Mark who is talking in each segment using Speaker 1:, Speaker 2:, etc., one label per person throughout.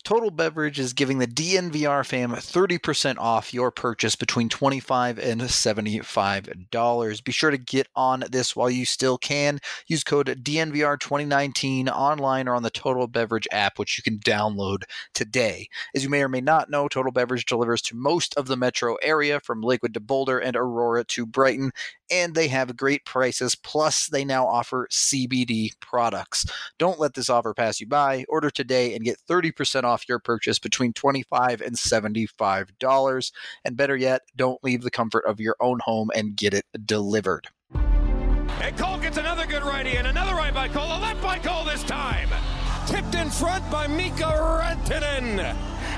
Speaker 1: Total Beverage is giving the DNVR fam 30% off your purchase between $25 and $75. Be sure to get on this while you still can. Use code DNVR2019 online or on the Total Beverage app, which you can download today. As you may or may not know, Total Beverage delivers to most of the metro area, from Lakewood to Boulder and Aurora to Brighton, and they have great prices. Plus, they now offer CBD products. Don't let this offer pass you by. Order today and get 30% off your purchase between $25 and $75. And better yet, don't leave the comfort of your own home and get it delivered.
Speaker 2: And Cole gets another good righty, and another right by Cole, a left by Cole this time. Tipped in front by Mika Rantanen.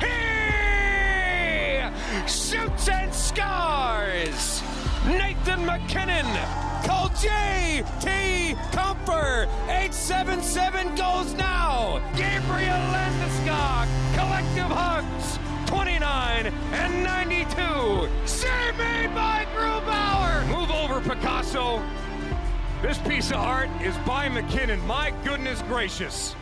Speaker 2: He shoots and scores. Nathan McKinnon. Call J.T. Comfer. 877 goes now. Gabriel Landeskog. Collective hugs. 29 and 92. Save made by Grubauer. Move over, Picasso. This piece of art is by McKinnon. My goodness gracious.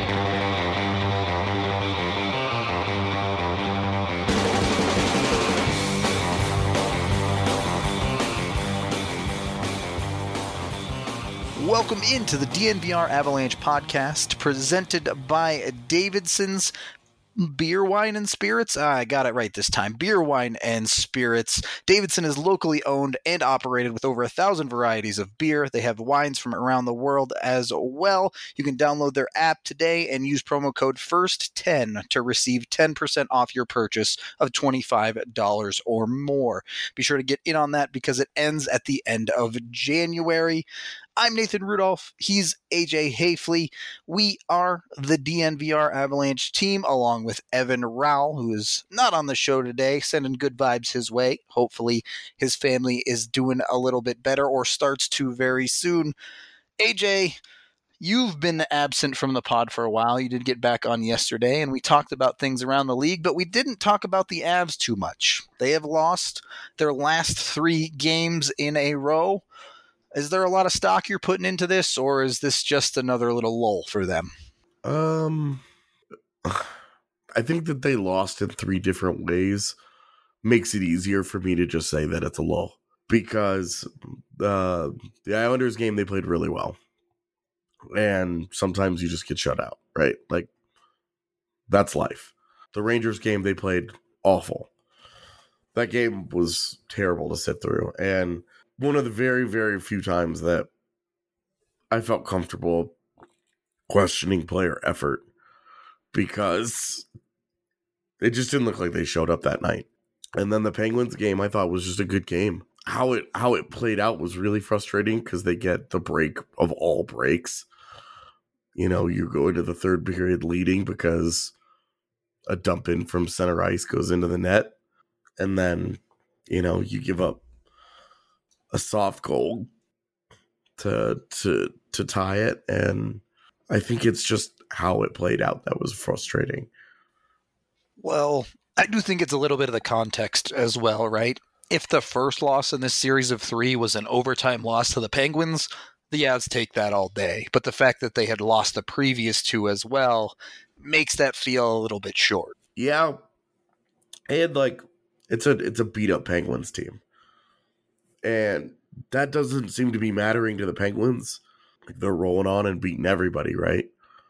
Speaker 1: Welcome into the DNVR Avalanche podcast, presented by Davidson's Beer, Wine, and Spirits. I got it right this time. Beer, Wine, and Spirits. Davidson is locally owned and operated with over 1,000 varieties of beer. They have wines from around the world as well. You can download their app today and use promo code FIRST10 to receive 10% off your purchase of $25 or more. Be sure to get in on that because it ends at the end of January. I'm Nathan Rudolph. He's AJ Hayfley. We are the DNVR Avalanche team, along with Evan Rowell, who is not on the show today, sending good vibes his way. Hopefully his family is doing a little bit better or starts to very soon. AJ, you've been absent from the pod for a while. You did get back on yesterday, and we talked about things around the league, but we didn't talk about the Avs too much. They have lost their last 3 games in a row. Is there a lot of stock you're putting into this, or is this just another little lull for them?
Speaker 3: I think that they lost in 3 different ways makes it easier for me to just say that it's a lull, because the Islanders game, they played really well, and sometimes you just get shut out, right? Like, that's life. The Rangers game, they played awful. That game was terrible to sit through, and one of the very, very few times that I felt comfortable questioning player effort, because it just didn't look like they showed up that night. And then the Penguins game, I thought, was just a good game. How it played out was really frustrating, because they get the break of all breaks. You know, you go into the third period leading because a dump in from center ice goes into the net, and then, you know, you give up a soft goal to tie it, and I think it's just how it played out that was frustrating.
Speaker 1: Well, I do think it's a little bit of the context as well, right? If the first loss in this series of 3 was an overtime loss to the Penguins, the Avs take that all day. But the fact that they had lost the previous 2 as well makes that feel a little bit short.
Speaker 3: Yeah, and like it's a beat up Penguins team. And that doesn't seem to be mattering to the Penguins. Like, they're rolling on and beating everybody, right?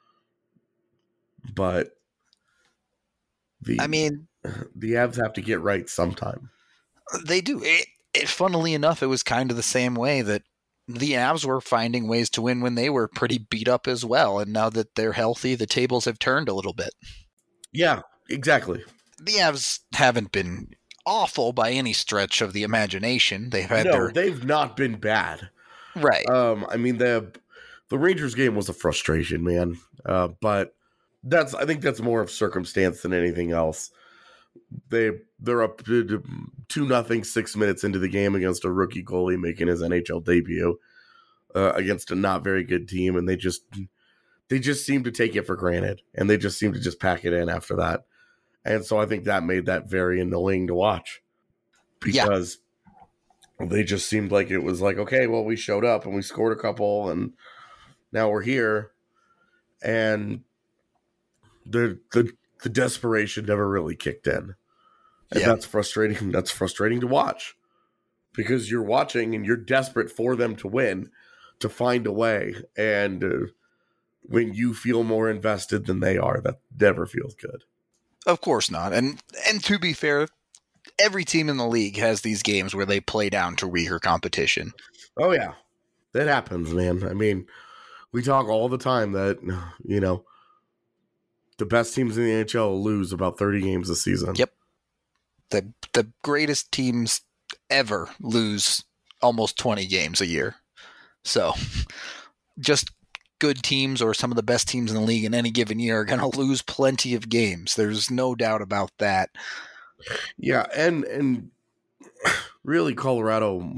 Speaker 3: But the Avs have to get right sometime.
Speaker 1: They do. Funnily enough, it was kind of the same way that the Avs were finding ways to win when they were pretty beat up as well. And now that they're healthy, the tables have turned a little bit.
Speaker 3: Yeah, exactly.
Speaker 1: The Avs haven't been awful by any stretch of the imagination.
Speaker 3: They've not been bad.
Speaker 1: Right.
Speaker 3: I mean, the Rangers game was a frustration, man. But I think that's more of circumstance than anything else. They're up 2-0 6 minutes into the game against a rookie goalie making his NHL debut against a not very good team, and they just seem to take it for granted, and they just seem to just pack it in after that. And so I think that made that very annoying to watch, because they just seemed like it was like, okay, well, we showed up and we scored a couple and now we're here. And the the desperation never really kicked in. And that's frustrating. That's frustrating to watch because you're watching and you're desperate for them to win, to find a way. And when you feel more invested than they are, that never feels good.
Speaker 1: Of course not. And to be fair, every team in the league has these games where they play down to weaker competition.
Speaker 3: Oh, yeah. That happens, man. I mean, we talk all the time that, you know, the best teams in the NHL lose about 30 games a season.
Speaker 1: Yep. The greatest teams ever lose almost 20 games a year. So just good teams or some of the best teams in the league in any given year are going to lose plenty of games. There's no doubt about that.
Speaker 3: Yeah, and really Colorado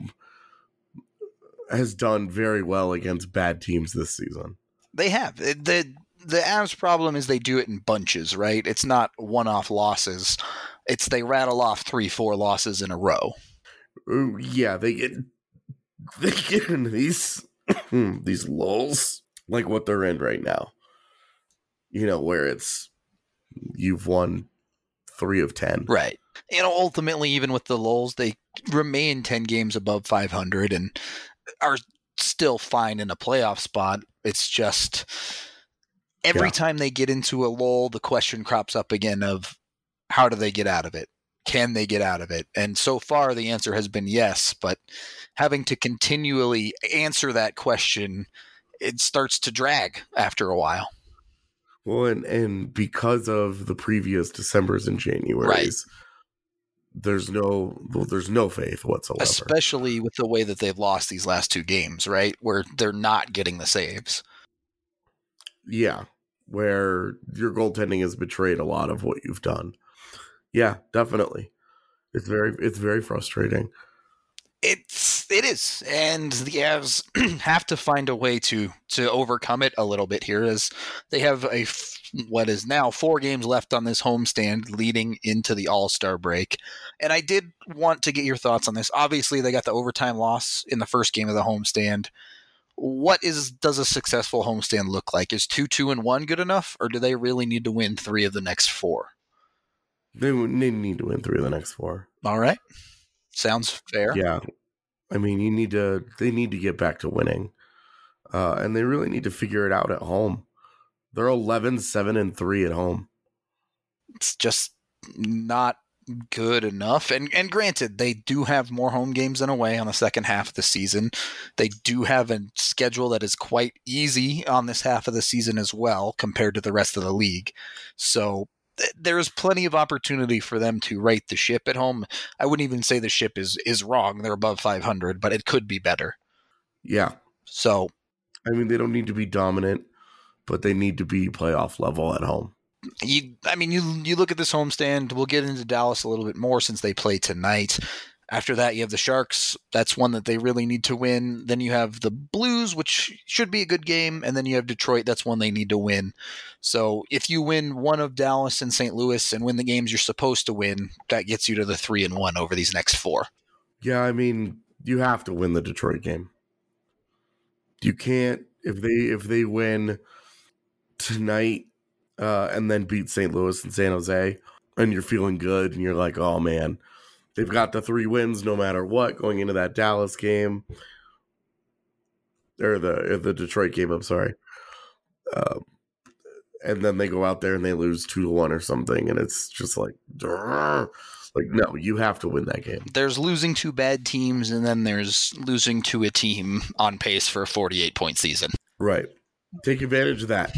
Speaker 3: has done very well against bad teams this season.
Speaker 1: They have. The Avs problem is they do it in bunches, right? It's not one-off losses. It's they rattle off 3-4 losses in a row.
Speaker 3: Yeah, they get into these these lulls like what they're in right now. You know, where it's you've won 3 of 10.
Speaker 1: Right. You know, ultimately, even with the lulls, they remain 10 games above 500 and are still fine in a playoff spot. It's just every time they get into a lull, the question crops up again of how do they get out of it? Can they get out of it? And so far, the answer has been yes, but having to continually answer that question, it starts to drag after a while.
Speaker 3: Well, and because of the previous Decembers and Januarys,
Speaker 1: right.
Speaker 3: There's no faith whatsoever.
Speaker 1: Especially with the way that they've lost these last 2 games, right? Where they're not getting the saves.
Speaker 3: Yeah, where your goaltending has betrayed a lot of what you've done. Yeah, definitely. It's very frustrating.
Speaker 1: It is, and the Avs have to find a way to overcome it a little bit here, as they have what is now 4 games left on this homestand leading into the All-Star break. And I did want to get your thoughts on this. Obviously, they got the overtime loss in the first game of the homestand. What does a successful homestand look like? Is 2-2-1 good enough, or do they really need to win 3 of the next 4?
Speaker 3: They need to win 3 of the next 4.
Speaker 1: All right. Sounds fair.
Speaker 3: Yeah. I mean, they need to get back to winning. And they really need to figure it out at home. They're 11-7-3 at home.
Speaker 1: It's just not good enough. And granted, they do have more home games than away on the second half of the season. They do have a schedule that is quite easy on this half of the season as well compared to the rest of the league. So there's plenty of opportunity for them to right the ship at home. I wouldn't even say the ship is wrong. They're above 500, but it could be better.
Speaker 3: Yeah.
Speaker 1: So,
Speaker 3: I mean, they don't need to be dominant, but they need to be playoff level at home.
Speaker 1: You look at this homestand. We'll get into Dallas a little bit more since they play tonight. After that, you have the Sharks. That's one that they really need to win. Then you have the Blues, which should be a good game. And then you have Detroit. That's one they need to win. So if you win one of Dallas and St. Louis and win the games you're supposed to win, that gets you to the 3-1 over these next 4.
Speaker 3: Yeah, I mean, you have to win the Detroit game. You can't, if they win tonight and then beat St. Louis and San Jose, and you're feeling good and you're like, oh man, they've got the 3 wins no matter what going into that Dallas game. Or the Detroit game, I'm sorry. And then they go out there and they lose 2-1 or something, and it's just like no, you have to win that game.
Speaker 1: There's losing to bad teams, and then there's losing to a team on pace for a 48-point season.
Speaker 3: Right. Take advantage of that.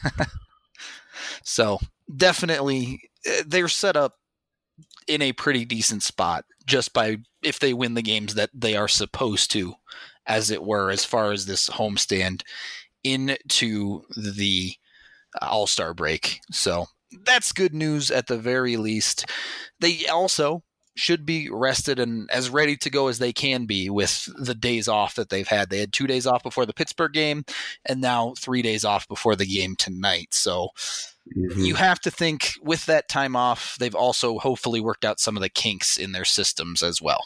Speaker 1: So definitely they're set up in a pretty decent spot just by if they win the games that they are supposed to, as it were, as far as this homestand into the All-Star break. So that's good news at the very least. They also should be rested and as ready to go as they can be with the days off that they've had. They had 2 days off before the Pittsburgh game and now 3 days off before the game tonight. So you have to think with that time off, they've also hopefully worked out some of the kinks in their systems as well.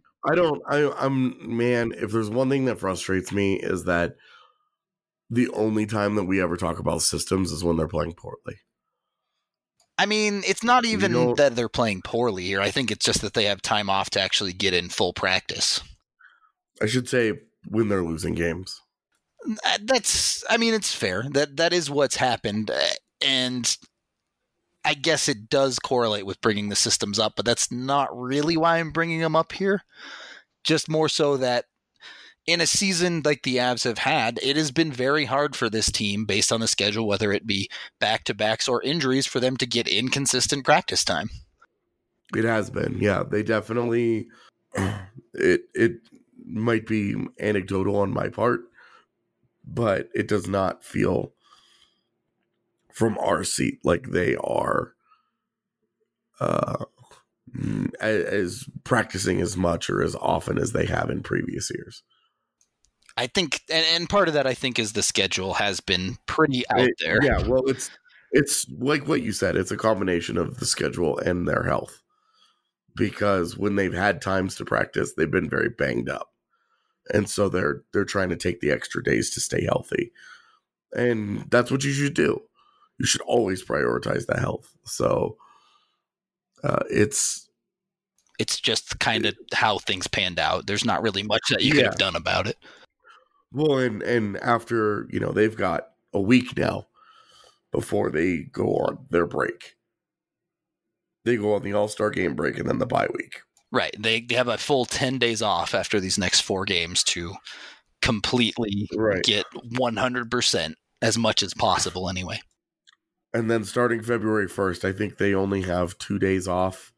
Speaker 3: Man, if there's one thing that frustrates me is that the only time that we ever talk about systems is when they're playing poorly.
Speaker 1: I mean, it's not even that they're playing poorly here. I think it's just that they have time off to actually get in full practice.
Speaker 3: I should say when they're losing games.
Speaker 1: It's fair. That is what's happened. And I guess it does correlate with bringing the systems up, but that's not really why I'm bringing them up here. Just more so that in a season like the Avs have had, it has been very hard for this team based on the schedule, whether it be back-to-backs or injuries, for them to get inconsistent practice time.
Speaker 3: It has been. Yeah, they definitely, it might be anecdotal on my part, but it does not feel from our seat like they are as practicing as much or as often as they have in previous years.
Speaker 1: I think, and part of that I think is the schedule has been pretty out there.
Speaker 3: Yeah, well, it's like what you said. It's a combination of the schedule and their health, because when they've had times to practice, they've been very banged up, and so they're trying to take the extra days to stay healthy, and that's what you should do. You should always prioritize the health. So it's
Speaker 1: just kind of how things panned out. There's not really much that you could have done about it.
Speaker 3: Well, and after, they've got a week now before they go on their break. They go on the All-Star game break and then the bye week.
Speaker 1: Right. They have a full 10 days off after these next 4 games to completely get 100% as much as possible anyway.
Speaker 3: And then starting February 1st, I think they only have 2 days off,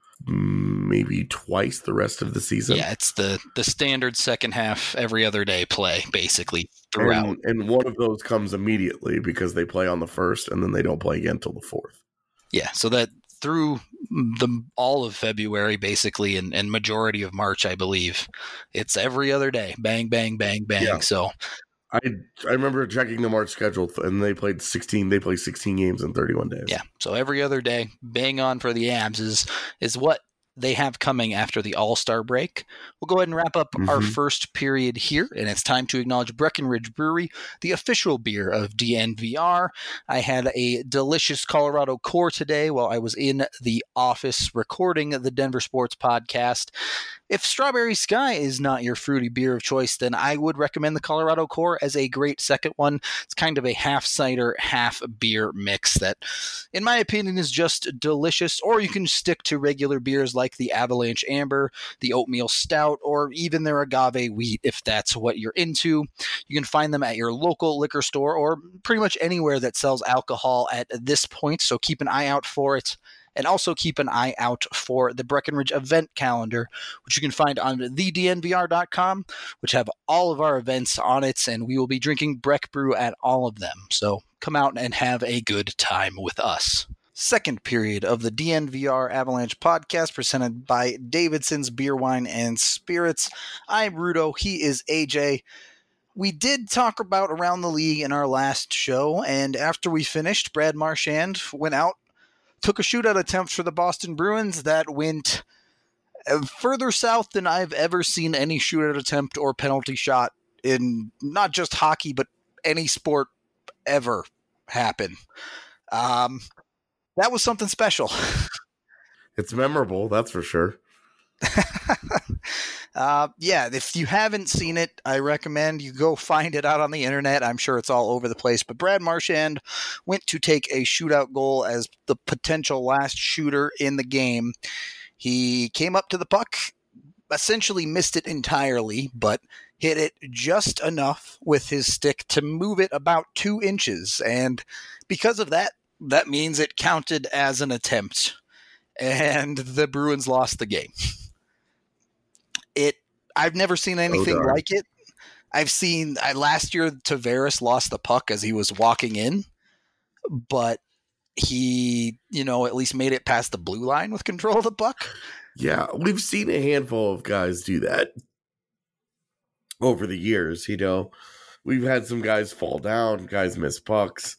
Speaker 3: maybe twice the rest of the season.
Speaker 1: Yeah, it's the standard second half, every other day play, basically, throughout.
Speaker 3: And one of those comes immediately because they play on the 1st, and then they don't play again until the 4th.
Speaker 1: Yeah, so that through all of February, basically, and majority of March, I believe, it's every other day. Bang, bang, bang, bang. Yeah. So
Speaker 3: I remember checking the March schedule, and they played 16 games in 31 days.
Speaker 1: Yeah, so every other day, bang on for the Avs is what they have coming after the All-Star break. We'll go ahead and wrap up our first period here, and it's time to acknowledge Breckenridge Brewery, the official beer of DNVR. I had a delicious Colorado Core today while I was in the office recording the Denver Sports Podcast. If Strawberry Sky is not your fruity beer of choice, then I would recommend the Colorado Core as a great second one. It's kind of a half cider, half beer mix that, in my opinion, is just delicious. Or you can stick to regular beers like the Avalanche Amber, the Oatmeal Stout, or even their Agave Wheat if that's what you're into. You can find them at your local liquor store or pretty much anywhere that sells alcohol at this point, so keep an eye out for it. And also keep an eye out for the Breckenridge event calendar, which you can find on thednvr.com, which have all of our events on it, and we will be drinking Breck Brew at all of them. So come out and have a good time with us. Second period of the DNVR Avalanche podcast presented by Davidson's Beer, Wine, and Spirits. I'm Rudo. He is AJ. We did talk about around the league in our last show, and after we finished, Brad Marchand went out, took a shootout attempt for the Boston Bruins that went further south than I've ever seen any shootout attempt or penalty shot in not just hockey, but any sport ever happen. That was something special.
Speaker 3: It's memorable, that's for sure.
Speaker 1: If you haven't seen it, I recommend you go find it out on the internet. I'm sure it's all over the place. But Brad Marchand went to take a shootout goal as the potential last shooter in the game. He came up to the puck, essentially missed it entirely, but hit it just enough with his stick to move it about 2 inches. And because of that, that means it counted as an attempt. And the Bruins lost the game. I've never seen anything like it. I've seen last year Tavares lost the puck as he was walking in, but he, at least made it past the blue line with control of the puck.
Speaker 3: Yeah, we've seen a handful of guys do that over the years. We've had some guys fall down, guys miss pucks.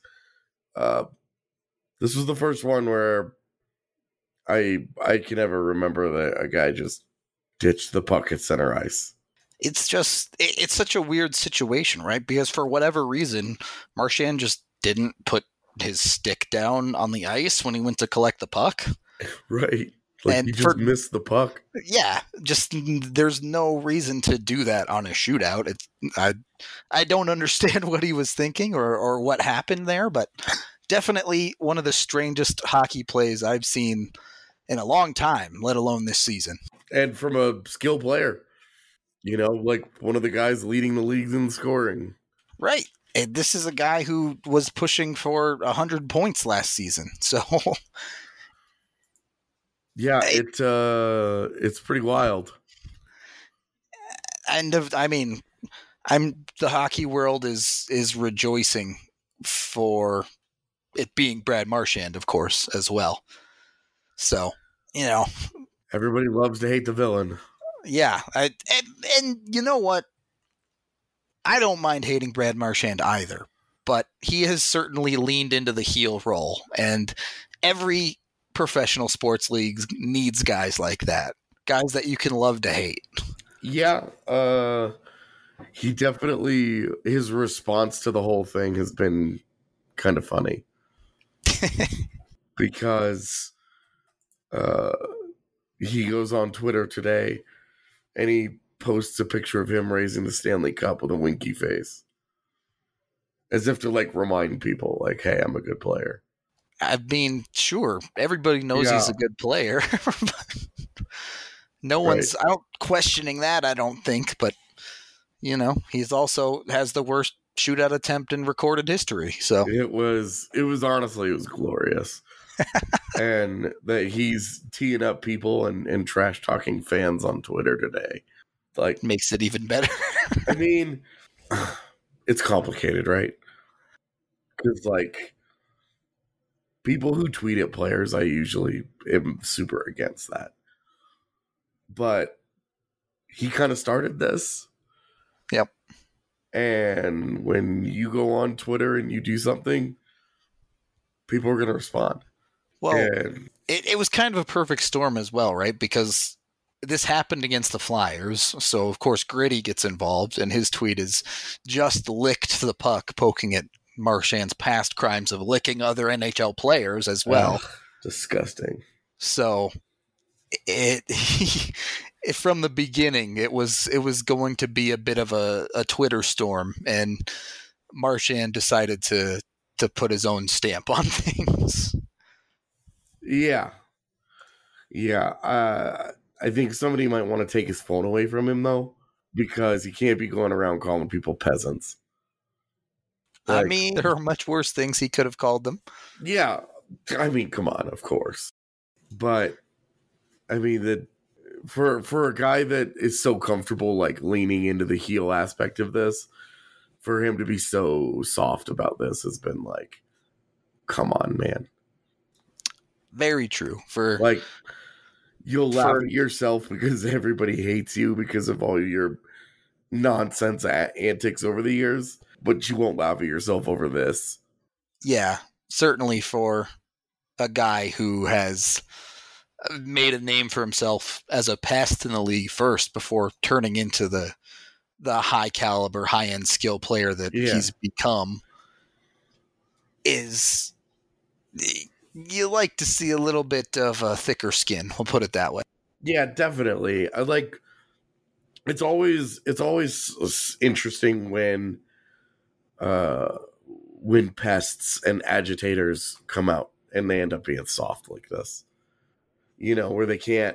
Speaker 3: This was the first one where I can ever remember that a guy just ditched the puck at center ice.
Speaker 1: It's such a weird situation, right? Because for whatever reason, Marchand just didn't put his stick down on the ice when he went to collect the puck.
Speaker 3: Right. Like,
Speaker 1: And
Speaker 3: you just missed the puck.
Speaker 1: Yeah, just there's no reason to do that on a shootout. I don't understand what he was thinking or what happened there, but definitely one of the strangest hockey plays I've seen in a long time, let alone this season.
Speaker 3: And from a skill player, like one of the guys leading the leagues in scoring.
Speaker 1: Right. And this is a guy who was pushing for 100 points last season. So
Speaker 3: yeah, it's pretty wild.
Speaker 1: And I mean, the hockey world is rejoicing for it being Brad Marchand, of course, as well. So,
Speaker 3: everybody loves to hate the villain.
Speaker 1: Yeah, and you know what? I don't mind hating Brad Marchand either, but he has certainly leaned into the heel role, and every professional sports league needs guys like that, guys that you can love to hate.
Speaker 3: Yeah, he definitely, his response to the whole thing has been kind of funny. Because he goes on Twitter today and he posts a picture of him raising the Stanley Cup with a winky face. As if to remind people, hey, I'm a good player.
Speaker 1: I mean, sure, everybody knows he's a good player. No one's out questioning that, I don't think, but he's also has the worst shootout attempt in recorded history. So
Speaker 3: it was glorious. And that he's teeing up people and trash talking fans on Twitter today.
Speaker 1: Makes it even better.
Speaker 3: I mean, it's complicated, right? Because people who tweet at players, I usually am super against that. But he kind of started this.
Speaker 1: Yep.
Speaker 3: And when you go on Twitter and you do something, people are going to respond.
Speaker 1: Well, it was kind of a perfect storm as well, right? Because this happened against the Flyers. So, of course, Gritty gets involved, and his tweet is just licked the puck, poking at Marchand's past crimes of licking other NHL players as well.
Speaker 3: Disgusting.
Speaker 1: So from the beginning, it was going to be a bit of a Twitter storm, and Marchand decided to put his own stamp on things.
Speaker 3: Yeah. I think somebody might want to take his phone away from him, though, because he can't be going around calling people peasants.
Speaker 1: I mean, there are much worse things he could have called them.
Speaker 3: Yeah. I mean, come on, of course. But, I mean, for a guy that is so comfortable, leaning into the heel aspect of this, for him to be so soft about this has been come on, man.
Speaker 1: Very true.
Speaker 3: You'll laugh at yourself because everybody hates you because of all your nonsense antics over the years, but you won't laugh at yourself over this.
Speaker 1: Yeah, certainly for a guy who has made a name for himself as a pest in the league first before turning into the high caliber, high end skill player that he's become. You like to see a little bit of a thicker skin. We'll put it that way.
Speaker 3: Yeah, definitely. It's always interesting when pests and agitators come out and they end up being soft like this. Where they can't,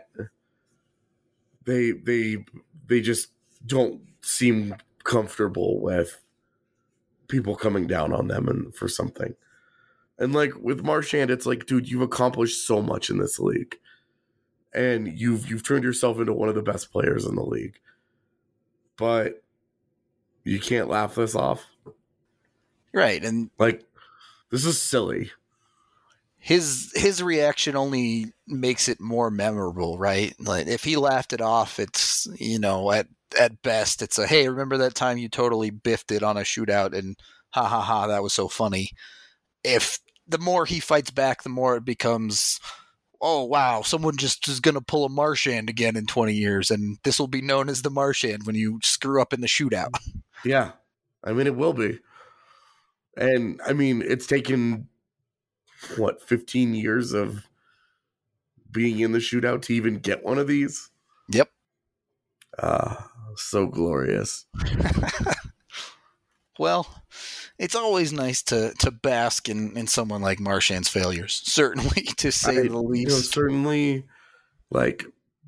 Speaker 3: they just don't seem comfortable with people coming down on them and for something. And with Marchand, it's dude, you've accomplished so much in this league, and you've turned yourself into one of the best players in the league, but you can't laugh this off,
Speaker 1: right? And
Speaker 3: this is silly.
Speaker 1: His reaction only makes it more memorable, right? If he laughed it off, it's at best it's a hey, remember that time you totally biffed it on a shootout and ha ha ha, that was so funny. If the more he fights back, the more it becomes, oh, wow, someone just is going to pull a Marchand again in 20 years, and this will be known as the Marchand when you screw up in the shootout.
Speaker 3: Yeah. I mean, it will be. And, I mean, it's taken 15 years of being in the shootout to even get one of these.
Speaker 1: Yep.
Speaker 3: So glorious.
Speaker 1: Well, it's always nice to bask in someone like Marchand's failures, certainly, to say the least.
Speaker 3: Certainly, like,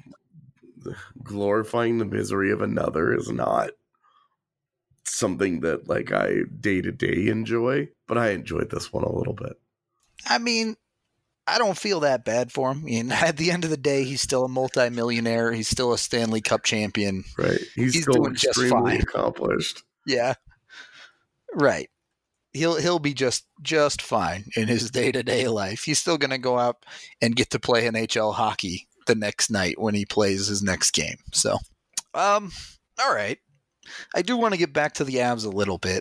Speaker 3: glorifying the misery of another is not something that, like, I day-to-day enjoy, but I enjoyed this one a little bit.
Speaker 1: I mean, I don't feel that bad for him. I mean, at the end of the day, he's still a multimillionaire. He's still a Stanley Cup champion.
Speaker 3: Right. He's still
Speaker 1: doing just
Speaker 3: extremely
Speaker 1: fine.
Speaker 3: accomplished.
Speaker 1: Yeah. Right. He'll be just fine in his day-to-day life. He's still going to go out and get to play NHL hockey the next night when he plays his next game. So, all right. I do want to get back to the Avs a little bit.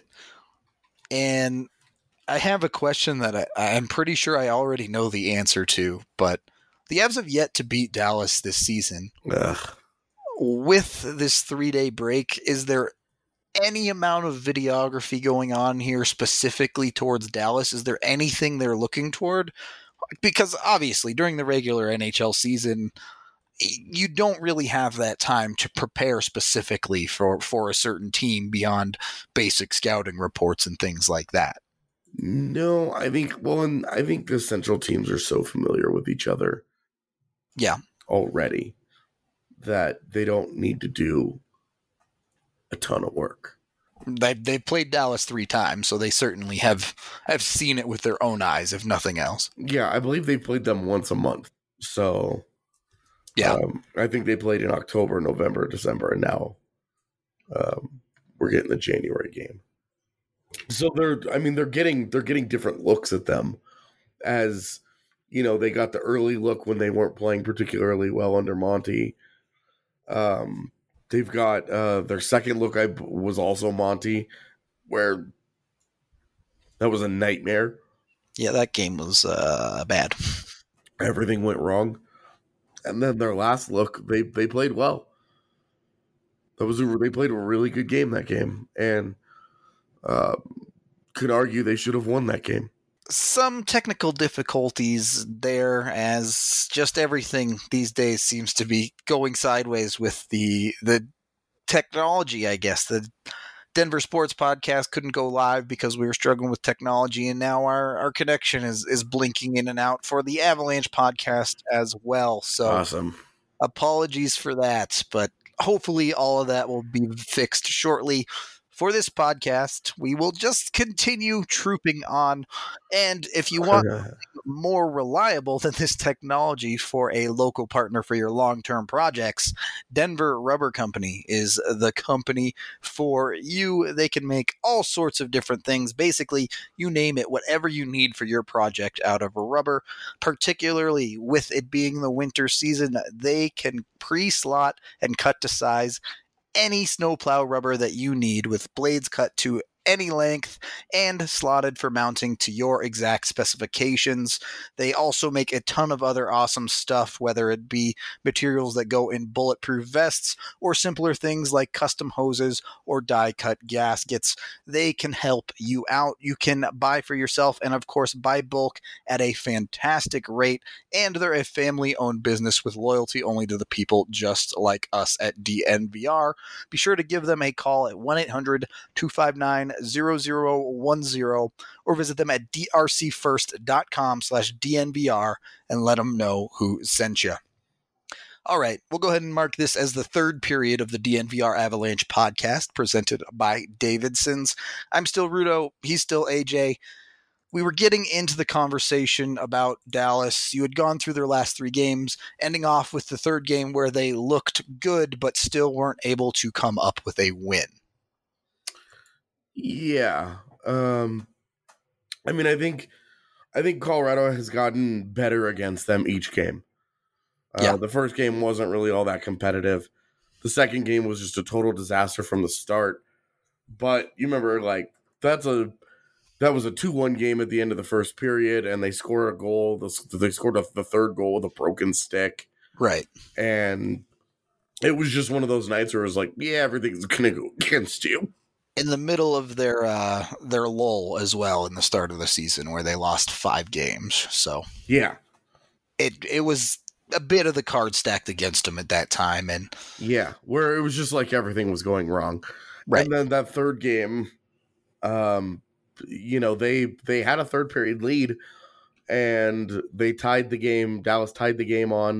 Speaker 1: And I have a question that I'm pretty sure I already know the answer to, but the Avs have yet to beat Dallas this season.
Speaker 3: Ugh.
Speaker 1: With this 3-day break, is there any amount of videography going on here specifically towards Dallas? Is there anything they're looking toward? Because obviously during the regular NHL season, you don't really have that time to prepare specifically for a certain team beyond basic scouting reports and things like that.
Speaker 3: No, I think the Central teams are so familiar with each other.
Speaker 1: Yeah.
Speaker 3: Already that they don't need to do a ton of work.
Speaker 1: They've played Dallas 3 times, so they certainly have seen it with their own eyes, if nothing else.
Speaker 3: Yeah, I believe they played them once a month. So,
Speaker 1: yeah,
Speaker 3: I think they played in October, November, December, and now we're getting the January game. So they're getting different looks at them, as you know, they got the early look when they weren't playing particularly well under Monty. They've got their second look was also Monty, where that was a nightmare.
Speaker 1: Yeah, that game was bad.
Speaker 3: Everything went wrong. And then their last look, they played well. They played a really good game that game, and could argue they should have won that game.
Speaker 1: Some technical difficulties there, as just everything these days seems to be going sideways with the technology, I guess. The Denver Sports Podcast couldn't go live because we were struggling with technology, and now our connection is blinking in and out for the Avalanche Podcast as well. So
Speaker 3: awesome.
Speaker 1: Apologies for that, but hopefully all of that will be fixed shortly. For this podcast, we will just continue trooping on. And if you want more reliable than this technology for a local partner for your long-term projects, Denver Rubber Company is the company for you. They can make all sorts of different things. Basically, you name it, whatever you need for your project out of rubber, particularly with it being the winter season, they can pre-slot and cut to size any snowplow rubber that you need, with blades cut to any length and slotted for mounting to your exact specifications. They also make a ton of other awesome stuff, whether it be materials that go in bulletproof vests or simpler things like custom hoses or die-cut gaskets. They can help you out. You can buy for yourself and, of course, buy bulk at a fantastic rate. And they're a family-owned business with loyalty only to the people just like us at DNVR. Be sure to give them a call at 1-800-259-0010 or visit them at drcfirst.com/DNVR and let them know who sent you. All right, we'll go ahead and mark this as the third period of the DNVR Avalanche podcast presented by Davidson's. I'm still Rudo. He's still AJ. We were getting into the conversation about Dallas. You had gone through their last 3 games, ending off with the third game where they looked good but still weren't able to come up with a win.
Speaker 3: Yeah. I think Colorado has gotten better against them each game. The first game wasn't really all that competitive. The second game was just a total disaster from the start. But you remember, like, that was a 2-1 game at the end of the first period, and they scored a goal. They scored the third goal with a broken stick.
Speaker 1: Right.
Speaker 3: And it was just one of those nights where it was like, yeah, everything's going to go against you.
Speaker 1: in the middle of their lull as well in the start of the season where they lost 5 games. So
Speaker 3: Yeah.
Speaker 1: it was a bit of the card stacked against them at that time. And
Speaker 3: Yeah, where it was just like everything was going wrong.
Speaker 1: right.
Speaker 3: And then that third game, you know, they had a third period lead and they tied the game. Dallas tied the game on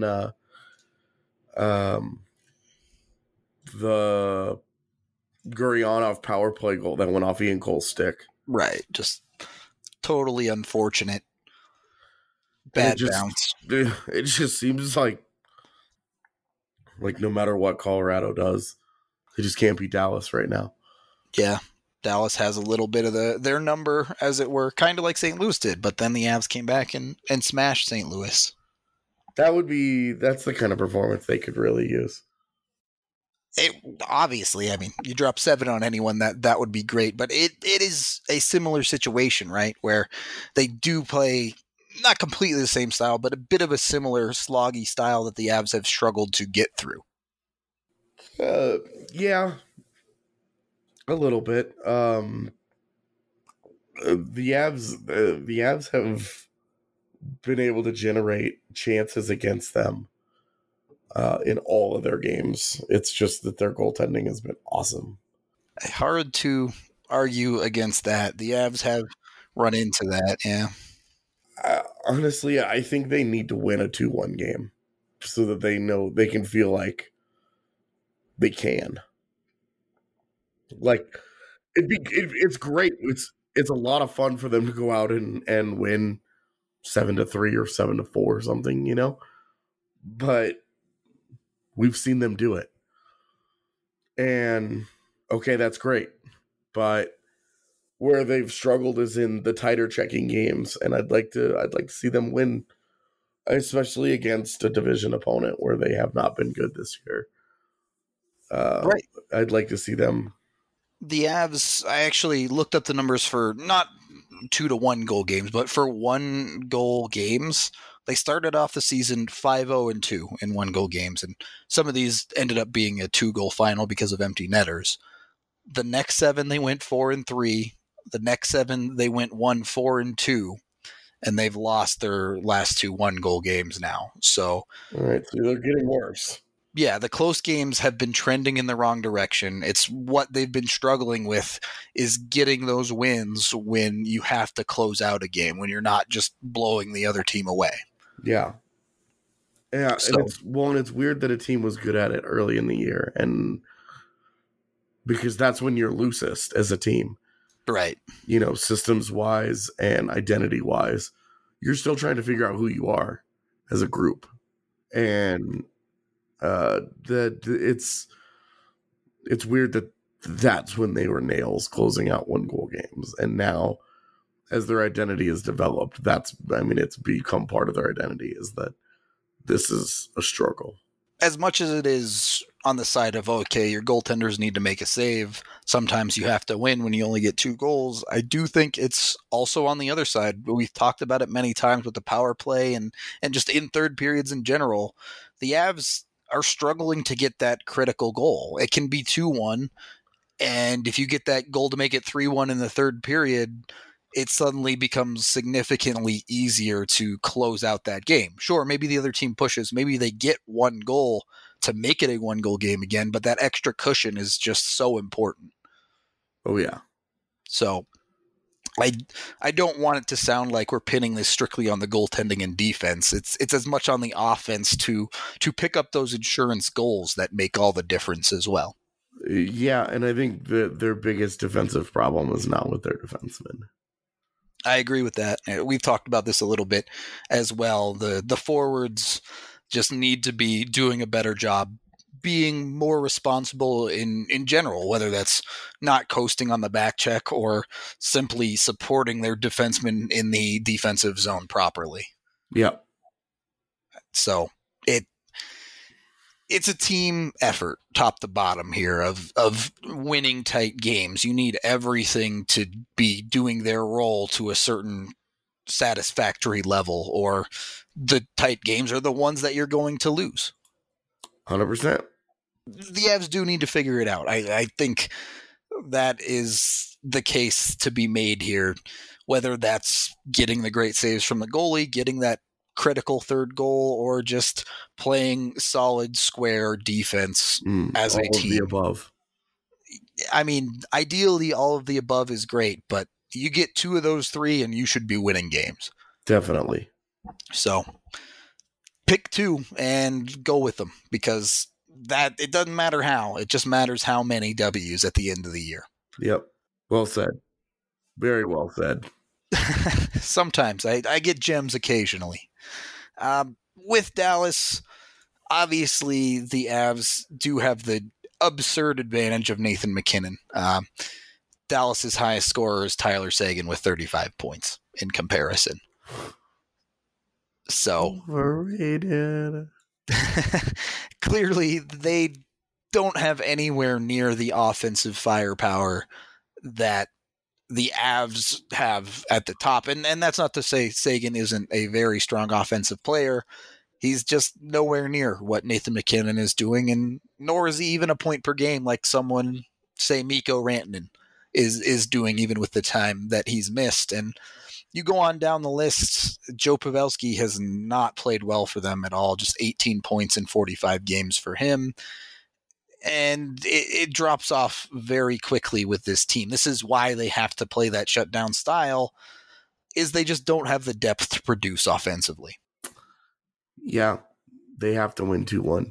Speaker 3: the Gurionov power play goal that went off Ian Cole's stick.
Speaker 1: Right. Just totally unfortunate. Bad bounce.
Speaker 3: It just seems like no matter what Colorado does, they just can't beat Dallas right now.
Speaker 1: Yeah. Dallas has a little bit of their number, as it were, kind of like St. Louis did, but then the Avs came back and smashed St. Louis.
Speaker 3: That's the kind of performance they could really use.
Speaker 1: Obviously, I mean, you drop 7 on anyone, that would be great, but it is a similar situation, right, where they do play not completely the same style, but a bit of a similar sloggy style that the Avs have struggled to get through.
Speaker 3: Yeah, a little bit. The Avs have been able to generate chances against them in all of their games. It's just that their goaltending has been awesome.
Speaker 1: Hard to argue against that. The Avs have run into that, yeah.
Speaker 3: Honestly, I think they need to win a 2-1 game so that they know they can feel like they can. Like it's great. It's a lot of fun for them to go out and win 7-3 or 7-4 or something, you know. But we've seen them do it, and okay, that's great. But where they've struggled is in the tighter checking games, and I'd like to see them win, especially against a division opponent where they have not been good this year.
Speaker 1: Right.
Speaker 3: I'd like to see them.
Speaker 1: The Avs, I actually looked up the numbers for not 2-1 goal games, but for 1 goal games. They started off the season 5-0-2 in 1 goal games, and some of these ended up being a 2-goal final because of empty netters. The next 7 they went 4-3. The next 7 they went 1-4-2, and they've lost their last 2 1-goal games now. So,
Speaker 3: all right, so they're getting worse.
Speaker 1: Yeah, the close games have been trending in the wrong direction. It's what they've been struggling with is getting those wins when you have to close out a game, when you're not just blowing the other team away.
Speaker 3: Yeah. Yeah,
Speaker 1: so,
Speaker 3: and it's weird that a team was good at it early in the year, and because that's when you're loosest as a team.
Speaker 1: Right.
Speaker 3: You know, systems-wise and identity-wise. You're still trying to figure out who you are as a group. And that it's weird that that's when they were nails closing out 1-goal games. And now, as their identity is developed, it's become part of their identity, is that this is a struggle.
Speaker 1: As much as it is on the side of, okay, your goaltenders need to make a save, sometimes you have to win when you only get 2 goals, I do think it's also on the other side. We've talked about it many times with the power play and just in third periods in general. The Avs are struggling to get that critical goal. It can be 2-1, and if you get that goal to make it 3-1 in the third period, it suddenly becomes significantly easier to close out that game. Sure, maybe the other team pushes. Maybe they get 1 goal to make it a 1-goal game again, but that extra cushion is just so important.
Speaker 3: Oh, yeah.
Speaker 1: So I don't want it to sound like we're pinning this strictly on the goaltending and defense. It's as much on the offense to pick up those insurance goals that make all the difference as well.
Speaker 3: Yeah, and I think that their biggest defensive problem is not with their defensemen.
Speaker 1: I agree with that. We've talked about this a little bit as well. The forwards just need to be doing a better job being more responsible in general, whether that's not coasting on the back check or simply supporting their defensemen in the defensive zone properly.
Speaker 3: Yeah.
Speaker 1: So it's a team effort, top to bottom here, of winning tight games. You need everything to be doing their role to a certain satisfactory level, or the tight games are the ones that you're going to lose.
Speaker 3: 100%.
Speaker 1: The Avs do need to figure it out. I think that is the case to be made here, whether that's getting the great saves from the goalie, getting that critical third goal, or just playing solid square defense as a team.
Speaker 3: All of the above.
Speaker 1: I mean, ideally, all of the above is great, but you get 2 of those 3 and you should be winning games.
Speaker 3: Definitely.
Speaker 1: So pick 2 and go with them, because that it doesn't matter how. It just matters how many W's at the end of the year.
Speaker 3: Yep. Well said. Very well said.
Speaker 1: Sometimes I get gems occasionally. With Dallas, obviously the Avs do have the absurd advantage of Nathan MacKinnon. Dallas's highest scorer is Tyler Seguin with 35 points in comparison. So
Speaker 3: overrated.
Speaker 1: Clearly they don't have anywhere near the offensive firepower that the Avs have at the top. And that's not to say Seguin isn't a very strong offensive player. He's just nowhere near what Nathan MacKinnon is doing, and nor is he even a point per game like someone, say, Mikko Rantanen is doing, even with the time that he's missed. And you go on down the list, Joe Pavelski has not played well for them at all, just 18 points in 45 games for him. And it drops off very quickly with this team. This is why they have to play that shutdown style, is they just don't have the depth to produce offensively.
Speaker 3: Yeah, they have to win 2-1.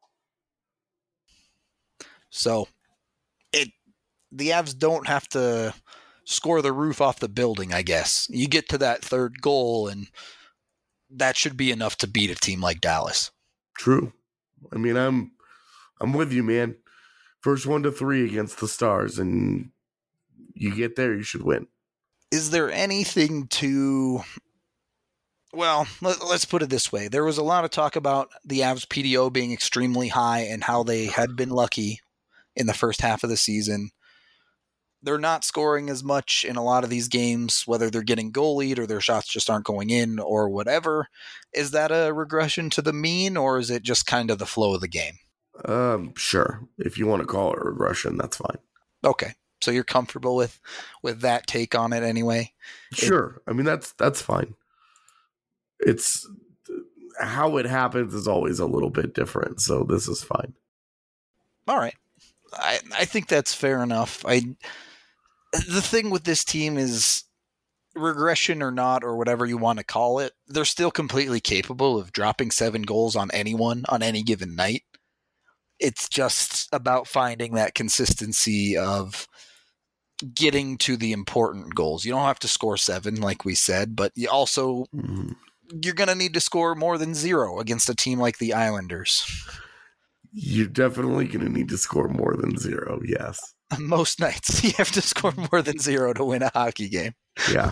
Speaker 1: So the Avs don't have to score the roof off the building, I guess. You get to that third goal, and that should be enough to beat a team like Dallas.
Speaker 3: True. I mean, I'm with you, man. First 1-3 against the Stars, and you get there, you should win.
Speaker 1: Is there anything to... Well, let's put it this way. There was a lot of talk about the Avs PDO being extremely high and how they had been lucky in the first half of the season. They're not scoring as much in a lot of these games, whether they're getting goalied or their shots just aren't going in or whatever. Is that a regression to the mean, or is it just kind of the flow of the game?
Speaker 3: Sure. If you want to call it a regression, that's fine.
Speaker 1: Okay. So you're comfortable with that take on it anyway?
Speaker 3: Sure. I mean, that's fine. It's how it happens is always a little bit different, so this is fine.
Speaker 1: All right. I think that's fair enough. The thing with this team is, regression or not, or whatever you want to call it, they're still completely capable of dropping 7 goals on anyone on any given night. It's just about finding that consistency of getting to the important goals. You don't have to score 7, like we said, but you also... You're going to need to score more than 0 against a team like the Islanders.
Speaker 3: You're definitely going to need to score more than 0, yes.
Speaker 1: Most nights, you have to score more than 0 to win a hockey game.
Speaker 3: Yeah.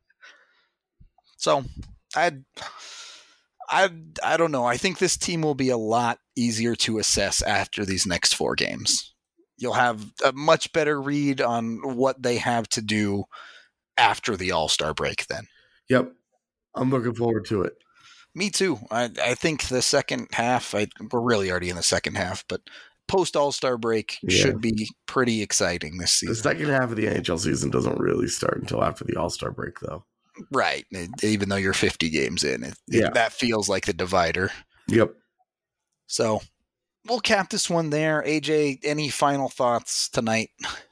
Speaker 1: So, I don't know. I think this team will be a lot easier to assess after these next 4 games. You'll have a much better read on what they have to do after the All-Star break then.
Speaker 3: Yep. I'm looking forward to it.
Speaker 1: Me too. I think the second half, we're really already in the second half, but post All-Star break should be pretty exciting this season.
Speaker 3: The second half of the NHL season doesn't really start until after the All-Star break, though.
Speaker 1: Right. Even though you're 50 games in, that feels like the divider.
Speaker 3: Yep.
Speaker 1: So we'll cap this one there. AJ, any final thoughts tonight?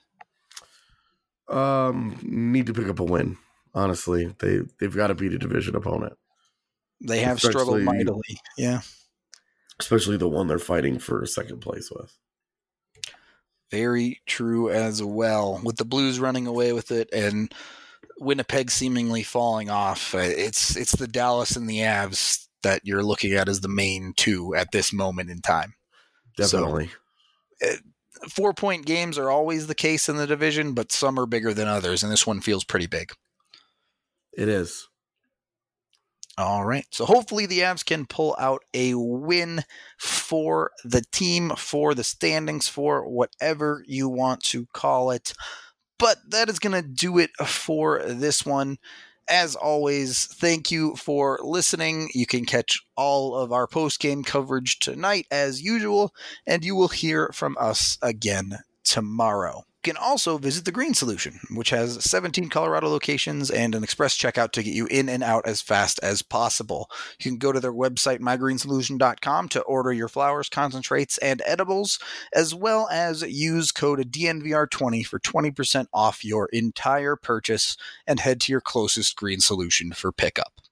Speaker 3: Need to pick up a win. Honestly, they've got to beat a division opponent.
Speaker 1: They have struggled mightily, yeah.
Speaker 3: Especially the one they're fighting for second place with.
Speaker 1: Very true as well. With the Blues running away with it and Winnipeg seemingly falling off, it's the Dallas and the Avs that you're looking at as the main 2 at this moment in time.
Speaker 3: Definitely.
Speaker 1: So, 4-point games are always the case in the division, but some are bigger than others, and this one feels pretty big.
Speaker 3: It is.
Speaker 1: All right. So hopefully the Avs can pull out a win for the team, for the standings, for whatever you want to call it. But that is going to do it for this one. As always, thank you for listening. You can catch all of our post-game coverage tonight as usual, and you will hear from us again tomorrow. You can also visit the Green Solution, which has 17 Colorado locations and an express checkout to get you in and out as fast as possible. You can go to their website, mygreensolution.com, to order your flowers, concentrates, and edibles, as well as use code DNVR20 for 20% off your entire purchase, and head to your closest Green Solution for pickup.